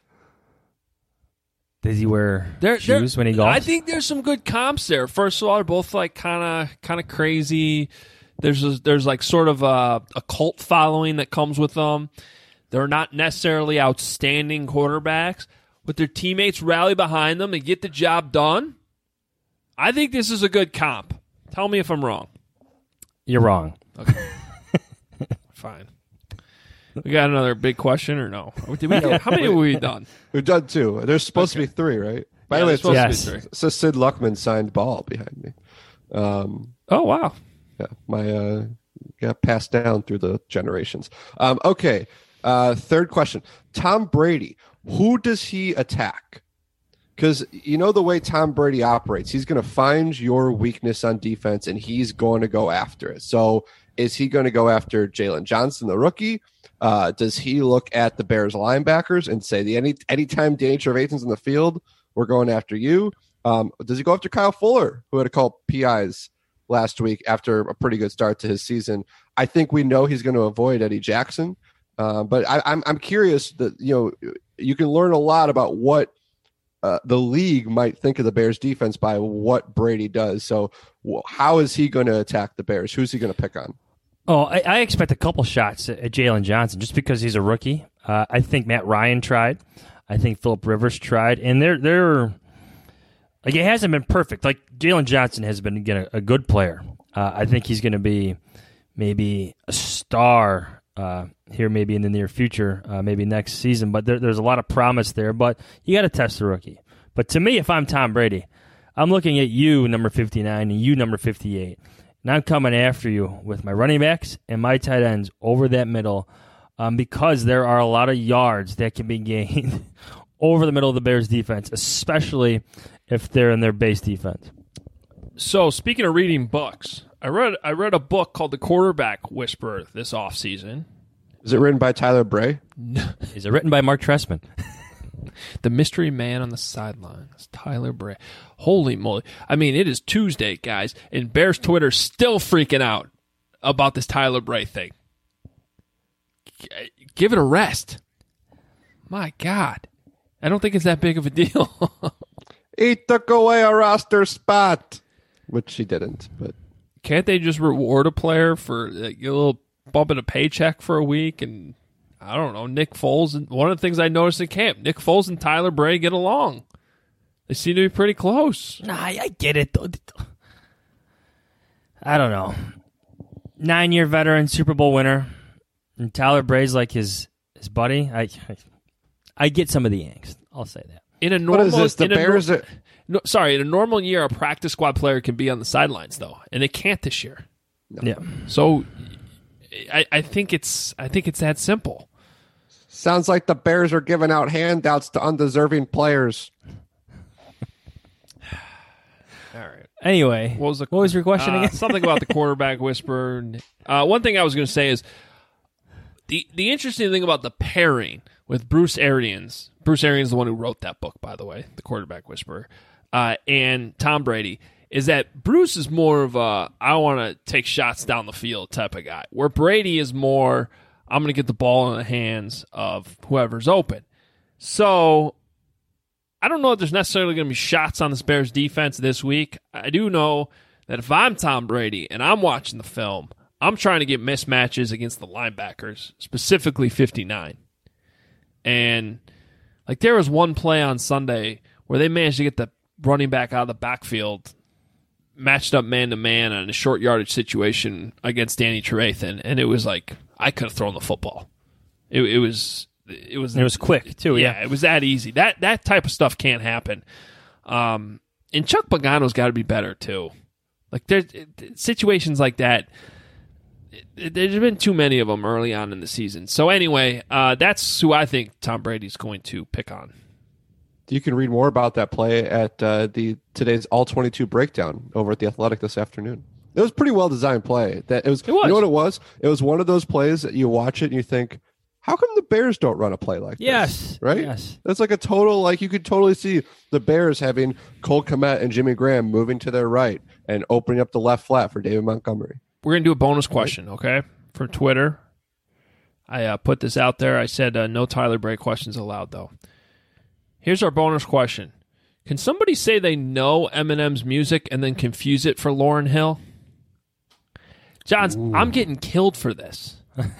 Does he wear shoes when he golfs? I think there's some good comps there. First of all, they're both like kind of crazy. There's like sort of a cult following that comes with them. They're not necessarily outstanding quarterbacks, but their teammates rally behind them and get the job done. I think this is a good comp. Tell me if I'm wrong. You're wrong. Okay. Fine. We got another big question or no? How many have we done? We've done 2. There's supposed to be 3, right? By the way, it's supposed to be 3. It says Sid Luckman signed ball behind me. Oh, wow. Yeah, my got passed down through the generations. Okay, third question. Tom Brady, who does he attack? Because you know the way Tom Brady operates, he's going to find your weakness on defense and he's going to go after it. So is he going to go after Jalen Johnson, the rookie? Does he look at the Bears linebackers and say, anytime Danny Trevathan's in the field, we're going after you? Does he go after Kyle Fuller, who had to call PIs last week after a pretty good start to his season? I think we know he's going to avoid Eddie Jackson. But I'm curious that, you can learn a lot about what the league might think of the Bears defense by what Brady does. So how is he going to attack the Bears? Who's he going to pick on? Oh, I expect a couple shots at Jalen Johnson just because he's a rookie. I think Matt Ryan tried. I think Phillip Rivers tried. And they're like, it hasn't been perfect. Like, Jalen Johnson has been, again, a good player. I think he's going to be maybe a star here maybe in the near future, maybe next season. But there's a lot of promise there. But you got to test the rookie. But to me, if I'm Tom Brady, I'm looking at you, number 59, and you, number 58. And I'm coming after you with my running backs and my tight ends over that middle because there are a lot of yards that can be gained over the middle of the Bears defense, especially if they're in their base defense. So speaking of reading books, I read a book called The Quarterback Whisperer this offseason. Is it written by Tyler Bray? No. Is it written by Mark Trestman? The mystery man on the sidelines, Tyler Bray. Holy moly. I mean, it is Tuesday, guys, and Bears Twitter's still freaking out about this Tyler Bray thing. Give it a rest. My God. I don't think it's that big of a deal. He took away a roster spot, which he didn't. But can't they just reward a player for a little bump in a paycheck for a week? And I don't know, Nick Foles. And one of the things I noticed in camp, Nick Foles and Tyler Bray get along. They seem to be pretty close. Nah, I get it. I don't know. 9-year veteran, Super Bowl winner, and Tyler Bray's like his buddy. I get some of the angst. I'll say that. In a normal, what is this? The Bears in a normal year, a practice squad player can be on the sidelines though, and they can't this year. No. Yeah. So I think it's that simple. Sounds like the Bears are giving out handouts to undeserving players. All right. Anyway, what was your question again? Something about the quarterback whisperer. One thing I was going to say is the interesting thing about the pairing with Bruce Arians. Bruce Arians is the one who wrote that book, by the way, The Quarterback Whisperer, and Tom Brady, is that Bruce is more of a I want to take shots down the field type of guy, where Brady is more I'm going to get the ball in the hands of whoever's open. So I don't know if there's necessarily going to be shots on this Bears defense this week. I do know that if I'm Tom Brady and I'm watching the film, I'm trying to get mismatches against the linebackers, specifically 59. And like there was one play on Sunday where they managed to get the running back out of the backfield, matched up man-to-man on a short yardage situation against Danny Trevathan, and it was like I could have thrown the football. It was quick too. Yeah, it was that easy. That type of stuff can't happen. And Chuck Pagano's got to be better too. Like there's situations like that. there's been too many of them early on in the season. So anyway, that's who I think Tom Brady's going to pick on. You can read more about that play at today's All 22 breakdown over at The Athletic this afternoon. It was a pretty well designed play. It was. You know what it was? It was one of those plays that you watch it and you think, how come the Bears don't run a play like this? Yes. Right? Yes. That's like a total, like you could totally see the Bears having Cole Kmet and Jimmy Graham moving to their right and opening up the left flat for David Montgomery. We're going to do a bonus question, okay, from Twitter. I put this out there. I said no Tyler Bray questions allowed, though. Here's our bonus question. Can somebody say they know Eminem's music and then confuse it for Lauryn Hill? Johns, I'm getting killed for this.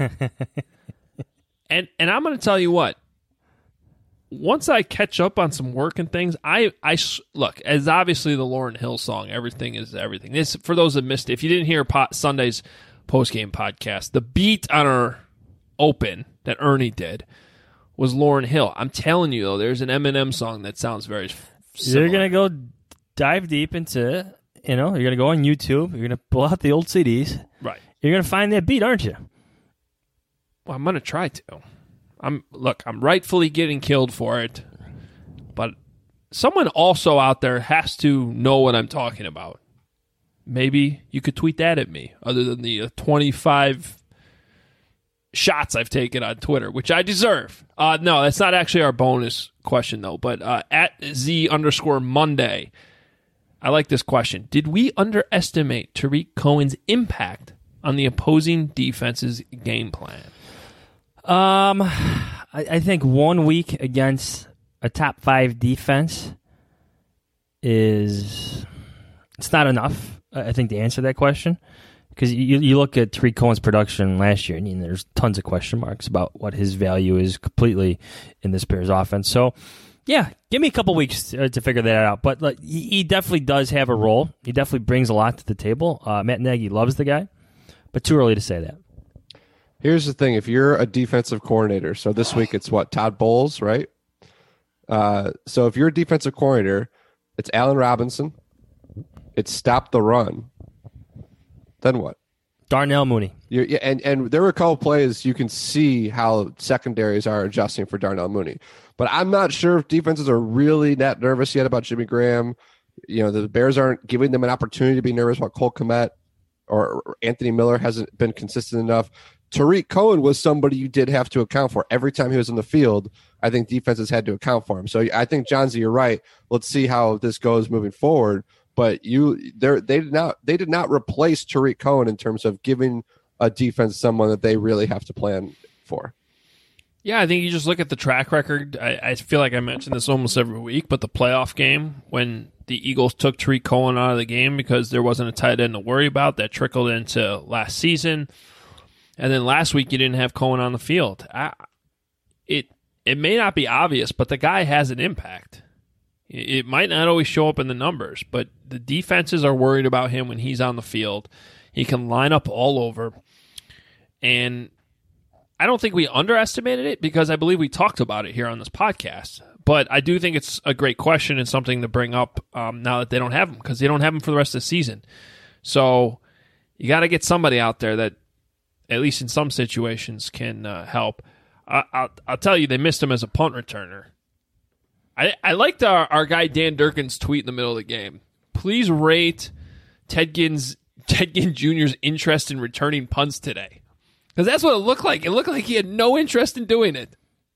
and I'm going to tell you what. Once I catch up on some work and things, I look, as obviously the Lauryn Hill song, Everything is Everything. This, for those that missed it, if you didn't hear Sunday's postgame podcast, the beat on our open that Ernie did was Lauryn Hill. I'm telling you, though, there's an Eminem song that sounds very similar. You're going to go dive deep into, you're going to go on YouTube. You're going to pull out the old CDs. Right. You're going to find that beat, aren't you? Well, I'm going to try to. I'm rightfully getting killed for it, but someone also out there has to know what I'm talking about. Maybe you could tweet that at me, other than the 25 shots I've taken on Twitter, which I deserve. No, that's not actually our bonus question, though, but at Z_Monday, I like this question. Did we underestimate Tariq Cohen's impact on the opposing defense's game plan? I think 1 week against a top 5 defense it's not enough, I think, to answer that question. Because you look at Tariq Cohen's production last year, and there's tons of question marks about what his value is completely in this Bears offense. So, yeah, give me a couple weeks to figure that out. But he definitely does have a role. He definitely brings a lot to the table. Matt Nagy loves the guy, but too early to say that. Here's the thing. If you're a defensive coordinator, so this week it's Todd Bowles, right? So if you're a defensive coordinator, it's Allen Robinson. It's stop the run. Then what? Darnell Mooney. And there were a couple plays you can see how secondaries are adjusting for Darnell Mooney. But I'm not sure if defenses are really that nervous yet about Jimmy Graham. The Bears aren't giving them an opportunity to be nervous about Cole Kmet, or Anthony Miller hasn't been consistent enough. Tariq Cohen was somebody you did have to account for. Every time he was in the field, I think defenses had to account for him. So I think, Johnsy, you're right. Let's see how this goes moving forward. But they did not replace Tariq Cohen in terms of giving a defense someone that they really have to plan for. Yeah, I think you just look at the track record. I feel like I mention this almost every week, but the playoff game when the Eagles took Tariq Cohen out of the game because there wasn't a tight end to worry about, that trickled into last season. And then last week you didn't have Cohen on the field. It may not be obvious, but the guy has an impact. It might not always show up in the numbers, but the defenses are worried about him when he's on the field. He can line up all over. And I don't think we underestimated it because I believe we talked about it here on this podcast. But I do think it's a great question and something to bring up now that they don't have him, because they don't have him for the rest of the season. So you got to get somebody out there that, at least in some situations, can help. I'll tell you, they missed him as a punt returner. I liked our guy Dan Durkin's tweet in the middle of the game. Please rate Ted Ginn Jr.'s interest in returning punts today. Because that's what it looked like. It looked like he had no interest in doing it.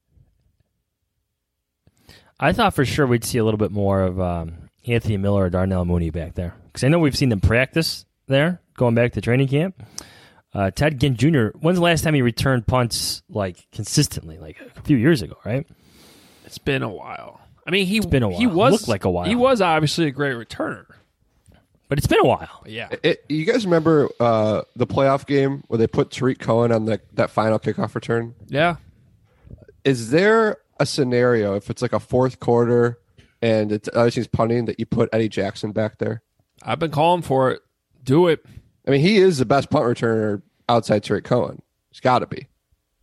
I thought for sure we'd see a little bit more of Anthony Miller or Darnell Mooney back there. Because I know we've seen them practice there, going back to training camp. Ted Ginn Jr., when's the last time he returned punts consistently? Like a few years ago, right? It's been a while. I mean, it's been a while. He was looked like a while. He was obviously a great returner, but it's been a while. Yeah. You guys remember the playoff game where they put Tariq Cohen on that final kickoff return? Yeah. Is there a scenario if it's like a fourth quarter and it's other team's punting that you put Eddie Jackson back there? I've been calling for it. Do it. I mean, he is the best punt returner outside Tariq Cohen. He's got to be.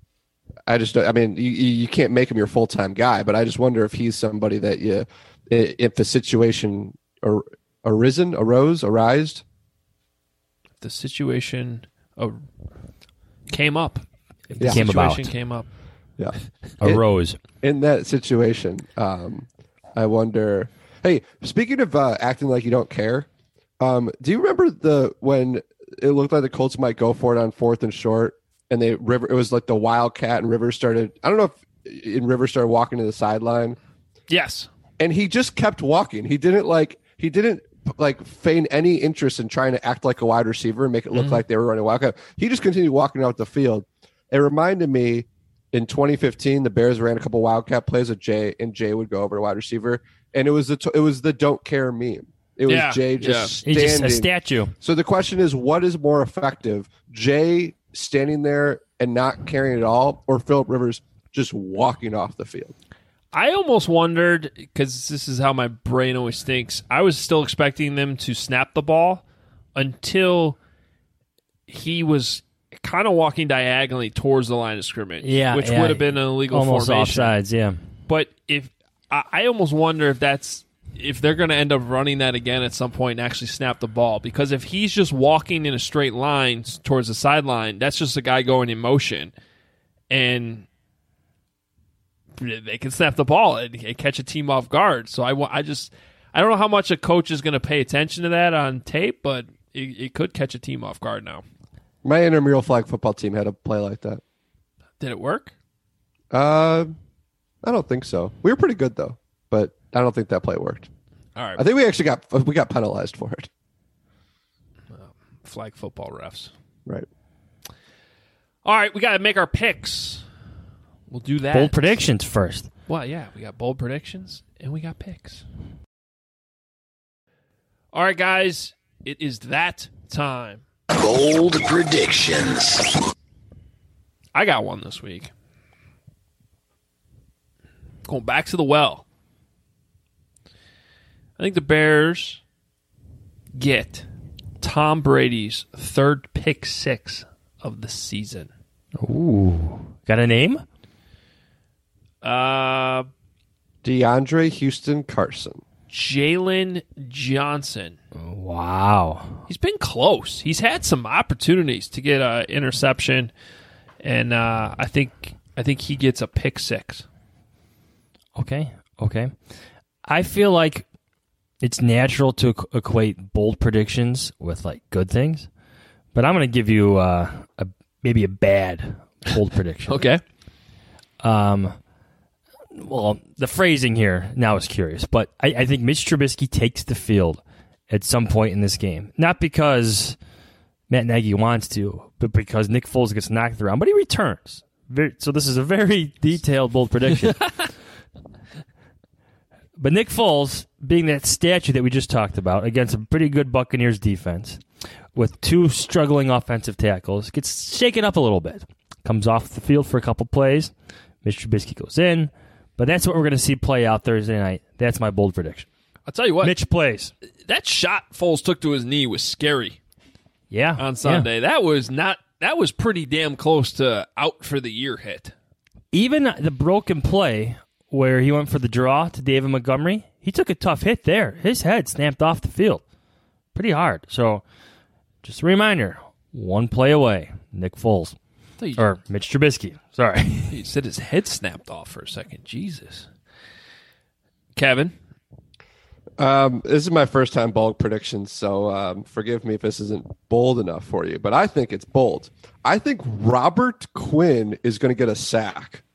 You can't make him your full-time guy, but I just wonder if he's somebody that if the situation arose, the situation came up. The Came situation about. came up. Yeah. Arose. In that situation, I wonder. Hey, speaking of acting like you don't care, do you remember when it looked like the Colts might go for it on 4th and short, and it was like the Wildcat, and Rivers started. I don't know if Rivers started walking to the sideline. Yes, and he just kept walking. He didn't feign any interest in trying to act like a wide receiver and make it look like they were running Wildcat. He just continued walking out the field. It reminded me in 2015, the Bears ran a couple Wildcat plays with Jay, and Jay would go over to wide receiver, and it was the don't care meme. It was Jay just standing. He's just a statue. So the question is, what is more effective, Jay standing there and not caring at all, or Phillip Rivers just walking off the field? I almost wondered, because this is how my brain always thinks, I was still expecting them to snap the ball until he was kind of walking diagonally towards the line of scrimmage, which would have been an illegal almost formation. Offsides, yeah. But I almost wonder if they're going to end up running that again at some point and actually snap the ball, because if he's just walking in a straight line towards the sideline, that's just a guy going in motion, and they can snap the ball and catch a team off guard. So I don't know how much a coach is going to pay attention to that on tape, but it could catch a team off guard now. My intramural flag football team had a play like that. Did it work? I don't think so. We were pretty good though, but I don't think that play worked. All right. I think we actually got penalized for it. Flag football refs. Right. All right, we got to make our picks. We'll do that. Bold predictions first. Well, yeah, we got bold predictions and we got picks. All right, guys, it is that time. Bold predictions. I got one this week. Going back to the well. I think the Bears get Tom Brady's third pick 6 of the season. Ooh. Got a name? DeAndre Houston Carson. Jalen Johnson. Wow. He's been close. He's had some opportunities to get an interception, and I think he gets a pick 6. Okay. I feel like it's natural to equate bold predictions with like good things, but I'm going to give you maybe a bad bold prediction. Okay. Well, the phrasing here now is curious, but I think Mitch Trubisky takes the field at some point in this game. Not because Matt Nagy wants to, but because Nick Foles gets knocked around, but he returns. So this is a very detailed, bold prediction. But Nick Foles, being that statue that we just talked about, against a pretty good Buccaneers defense, with 2 struggling offensive tackles, gets shaken up a little bit. Comes off the field for a couple plays. Mitch Trubisky goes in. But that's what we're going to see play out Thursday night. That's my bold prediction. I'll tell you what. Mitch plays. That shot Foles took to his knee was scary. Yeah. On Sunday. Yeah. That was pretty damn close to out for the year hit. Even the broken play where he went for the draw to David Montgomery, he took a tough hit there. His head snapped off the field. Pretty hard. So, just a reminder, 1 play away, Nick Foles. Or Mitch Trubisky. Sorry. He said his head snapped off for a second. Jesus. Kevin? This is my first time bold predictions, so forgive me if this isn't bold enough for you, but I think it's bold. I think Robert Quinn is going to get a sack.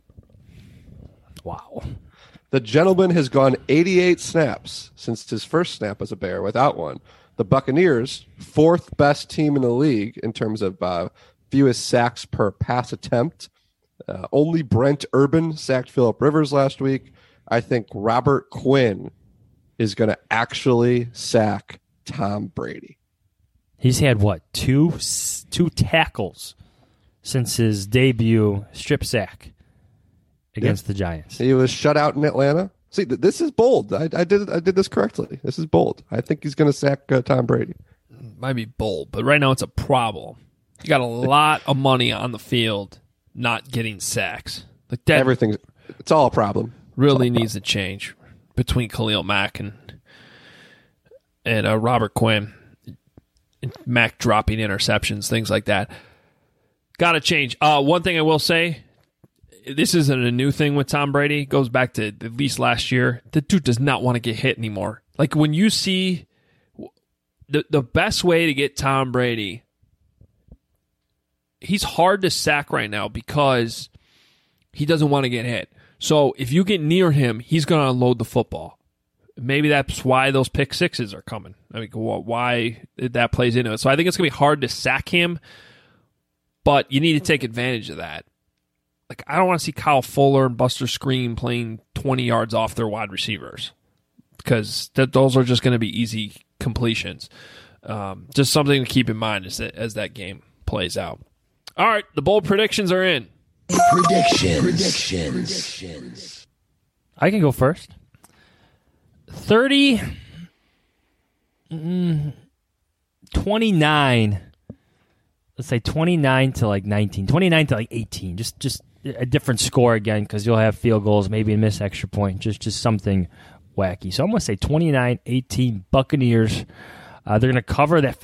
Wow. The gentleman has gone 88 snaps since his first snap as a Bear without one. The Buccaneers, 4th best team in the league in terms of fewest sacks per pass attempt. Only Brent Urban sacked Phillip Rivers last week. I think Robert Quinn is going to actually sack Tom Brady. He's had, what, two tackles since his debut strip sack against the Giants. He was shut out in Atlanta. See, this is bold. I did this correctly. This is bold. I think he's going to sack Tom Brady. Might be bold, but right now it's a problem. You got a lot of money on the field not getting sacks. Like that, it's all a problem. Really needs to change between Khalil Mack and Robert Quinn. Mac dropping interceptions, things like that. Got to change. One thing I will say, this isn't a new thing with Tom Brady. It goes back to at least last year. The dude does not want to get hit anymore. Like when you see the best way to get Tom Brady, he's hard to sack right now because he doesn't want to get hit. So if you get near him, he's going to unload the football. Maybe that's why those pick sixes are coming. I mean, why that plays into it. So I think it's going to be hard to sack him, but you need to take advantage of that. Like, I don't want to see Kyle Fuller and Buster Screen playing 20 yards off their wide receivers because those are just going to be easy completions. Just something to keep in mind as that game plays out. All right, the bold predictions are in. Predictions. I can go first. 29. Let's say 29 to like 19. 29 to like 18. Just a different score again because you'll have field goals, maybe a missed extra point. Just something wacky. So I'm going to say 29-18 Buccaneers. They're going to cover that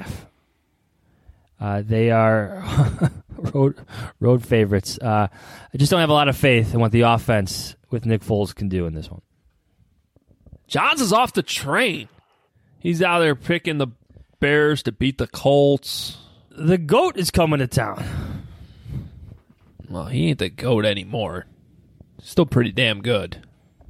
5.5. They are road favorites. I just don't have a lot of faith in what the offense with Nick Foles can do in this one. Johns is off the train. He's out there picking the Bears to beat the Colts. The GOAT is coming to town. Well, he ain't the GOAT anymore. Still pretty damn good.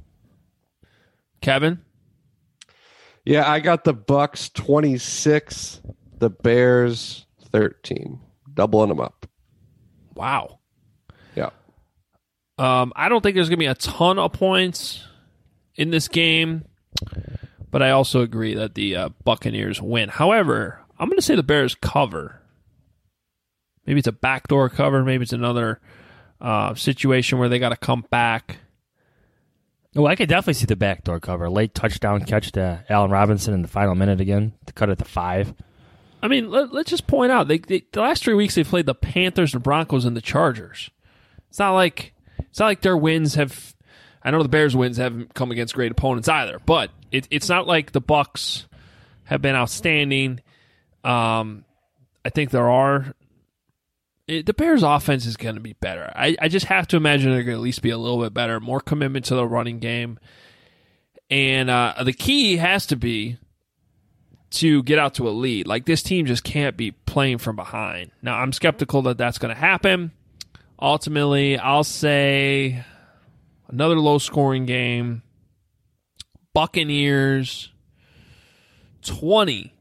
Kevin? Yeah, I got the Bucks 26, the Bears 13. Doubling them up. Wow. Yeah. I don't think there's going to be a ton of points in this game, but I also agree that the Buccaneers win. However, I'm going to say the Bears cover. Maybe it's a backdoor cover. Maybe it's another situation where they got to come back. Oh, I could definitely see the backdoor cover. Late touchdown catch to Allen Robinson in the final minute again to cut it to 5. I mean, let's just point out, the last 3 weeks they played the Panthers, the Broncos, and the Chargers. It's not like their wins have... I know the Bears' wins haven't come against great opponents either, but it's not like the Bucs have been outstanding. I think the Bears' offense is going to be better. I just have to imagine they're going to at least be a little bit better, more commitment to the running game. And the key has to be to get out to a lead. Like, this team just can't be playing from behind. Now, I'm skeptical that that's going to happen. Ultimately, I'll say another low-scoring game. Buccaneers 20.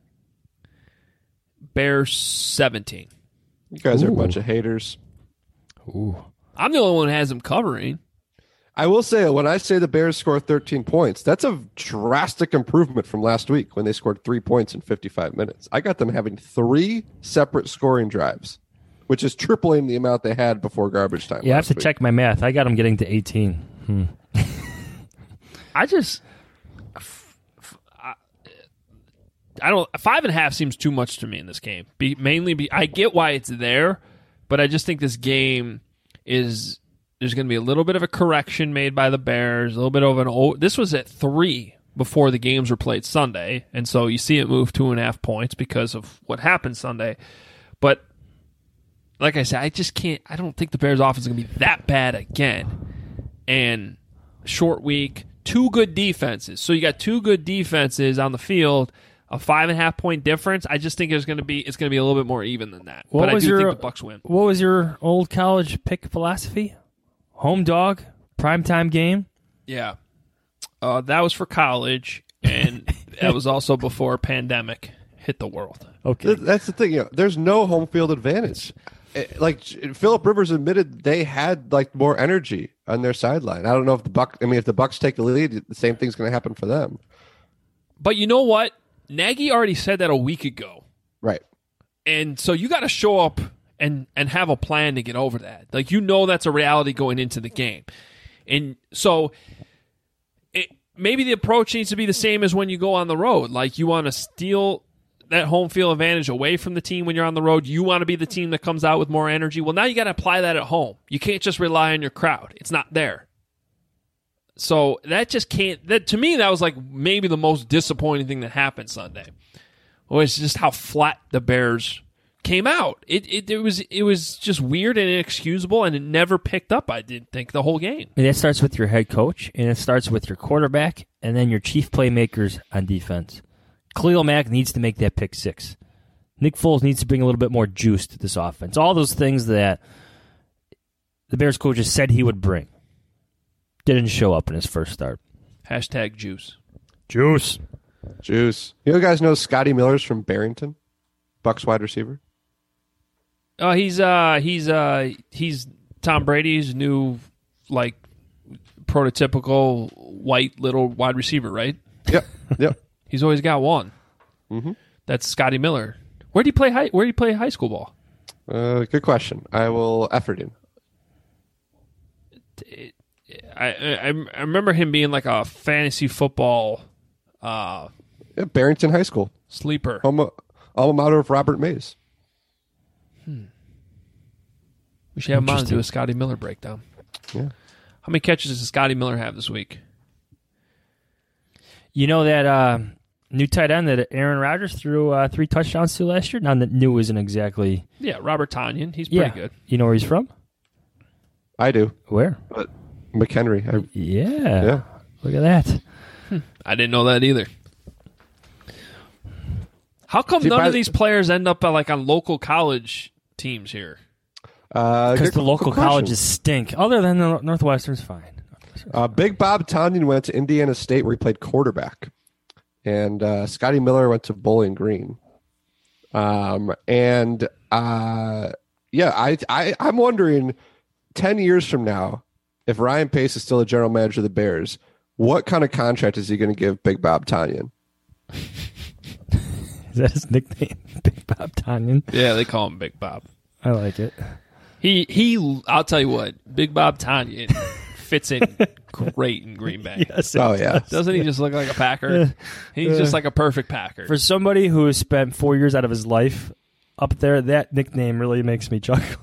Bears 17. You guys are a bunch of haters. Ooh. I'm the only one who has them covering. I will say, when I say the Bears score 13 points, that's a drastic improvement from last week when they scored 3 points in 55 minutes. I got them having 3 separate scoring drives, which is tripling the amount they had before garbage time. Yeah, I have to check my math. I got them getting to 18. I don't. 5.5 seems too much to me in this game. I get why it's there, but I just think this game is. There's going to be a little bit of a correction made by the Bears. A little bit of this was at 3 before the games were played Sunday, and so you see it move 2.5 points because of what happened Sunday. But like I said, I just can't. I don't think the Bears' offense is going to be that bad again. And short week, 2 good defenses. So you got 2 good defenses on the field. A 5.5 point difference. I just think it's going to be a little bit more even than that. But I do think the Bucs win. What was your old college pick philosophy? Home dog, primetime game. Yeah, that was for college, and that was also before pandemic hit the world. Okay, that's the thing. There's no home field advantage. Like Phillip Rivers admitted, they had like more energy on their sideline. I don't know if the Bucs take the lead, the same thing's going to happen for them. But you know what? Nagy already said that a week ago. Right. And so you got to show up and have a plan to get over that. Like, that's a reality going into the game. And so maybe the approach needs to be the same as when you go on the road. Like, you want to steal that home field advantage away from the team when you're on the road. You want to be the team that comes out with more energy. Well, now you got to apply that at home. You can't just rely on your crowd. It's not there. So that just can't. That to me, that was like maybe the most disappointing thing that happened Sunday. was just how flat the Bears came out. It was just weird and inexcusable, and it never picked up, I didn't think, the whole game. And that starts with your head coach, and it starts with your quarterback, and then your chief playmakers on defense. Khalil Mack needs to make that pick six. Nick Foles needs to bring a little bit more juice to this offense. All those things that the Bears coaches said he would bring didn't show up in his first start. Hashtag juice. Juice. You guys know Scotty Miller's from Barrington? Bucs wide receiver? Oh, he's Tom Brady's new, like, prototypical white little wide receiver, right? Yep. He's always got one. Mm-hmm. That's Scotty Miller. Where do you play high school ball? Good question. I will effort him. I remember him being like a fantasy football Barrington High School. Sleeper. Alma mater of Robert Mays. We should have him on to do a Scotty Miller breakdown. Yeah. How many catches does Scotty Miller have this week? You know that new tight end that Aaron Rodgers threw 3 touchdowns to last year? Now, that new isn't exactly... Yeah, Robert Tonyan. He's pretty good. You know where he's from? I do. Where? McHenry. Yeah. Look at that. I didn't know that either. How come none of these players end up on local college teams here? Because the local colleges stink. Other than the Northwestern's fine. Big Bob Tonyan went to Indiana State where he played quarterback. And Scotty Miller went to Bowling Green. I'm wondering 10 years from now, if Ryan Pace is still a general manager of the Bears, what kind of contract is he going to give Big Bob Tonyan? Is that his nickname? Big Bob Tonyan? Yeah, they call him Big Bob. I like it. He I'll tell you what, Big Bob Tonyan fits in great in Green Bay. Yes, Doesn't he just look like a Packer? He's just like a perfect Packer. For somebody who has spent 4 years out of his life up there, that nickname really makes me chuckle.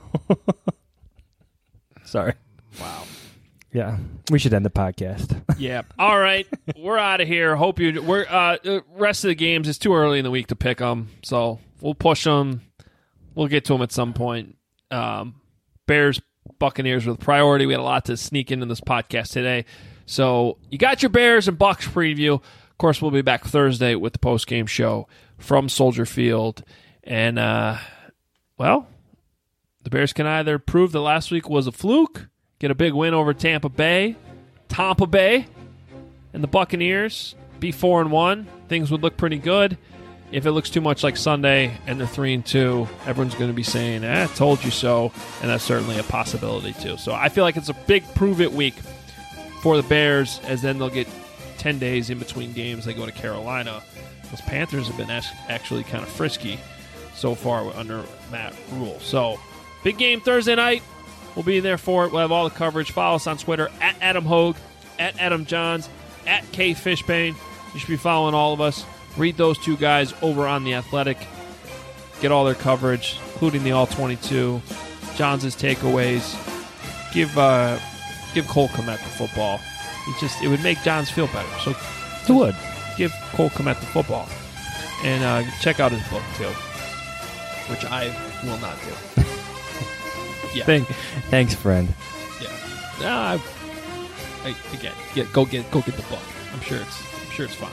Sorry. Wow. Yeah, we should end the podcast. Yeah. All right, we're out of here. Hope you. The rest of the games, it's too early in the week to pick them, so we'll push them. We'll get to them at some point. Bears, Buccaneers with priority. We had a lot to sneak into this podcast today, so you got your Bears and Bucs preview. Of course, we'll be back Thursday with the post game show from Soldier Field, and the Bears can either prove that last week was a fluke, get a big win over Tampa Bay, and the Buccaneers be 4-1. Things would look pretty good. If it looks too much like Sunday and they're 3-2, everyone's going to be saying, told you so, and that's certainly a possibility too. So I feel like it's a big prove-it week for the Bears, as then they'll get 10 days in between games. They go to Carolina. Those Panthers have been actually kind of frisky so far under Matt Rule. So big game Thursday night. We'll be there for it. We'll have all the coverage. Follow us on Twitter, at Adam Hogue, at Adam Johns, at K Fishbane. You should be following all of us. Read those two guys over on The Athletic. Get all their coverage, including the All-22, Johns' takeaways. Give Cole Kmet the football. It would make Johns feel better. So it would. Give Cole Kmet the football. And check out his book, too, which I will not do. Yeah. Thanks, friend. Yeah. Go get the book. I'm sure it's fine.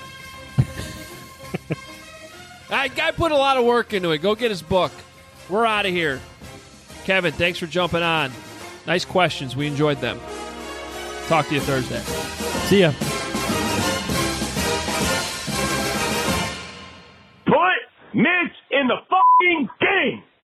Guy put a lot of work into it. Go get his book. We're out of here. Kevin, thanks for jumping on. Nice questions. We enjoyed them. Talk to you Thursday. See ya. Put Mitch in the fucking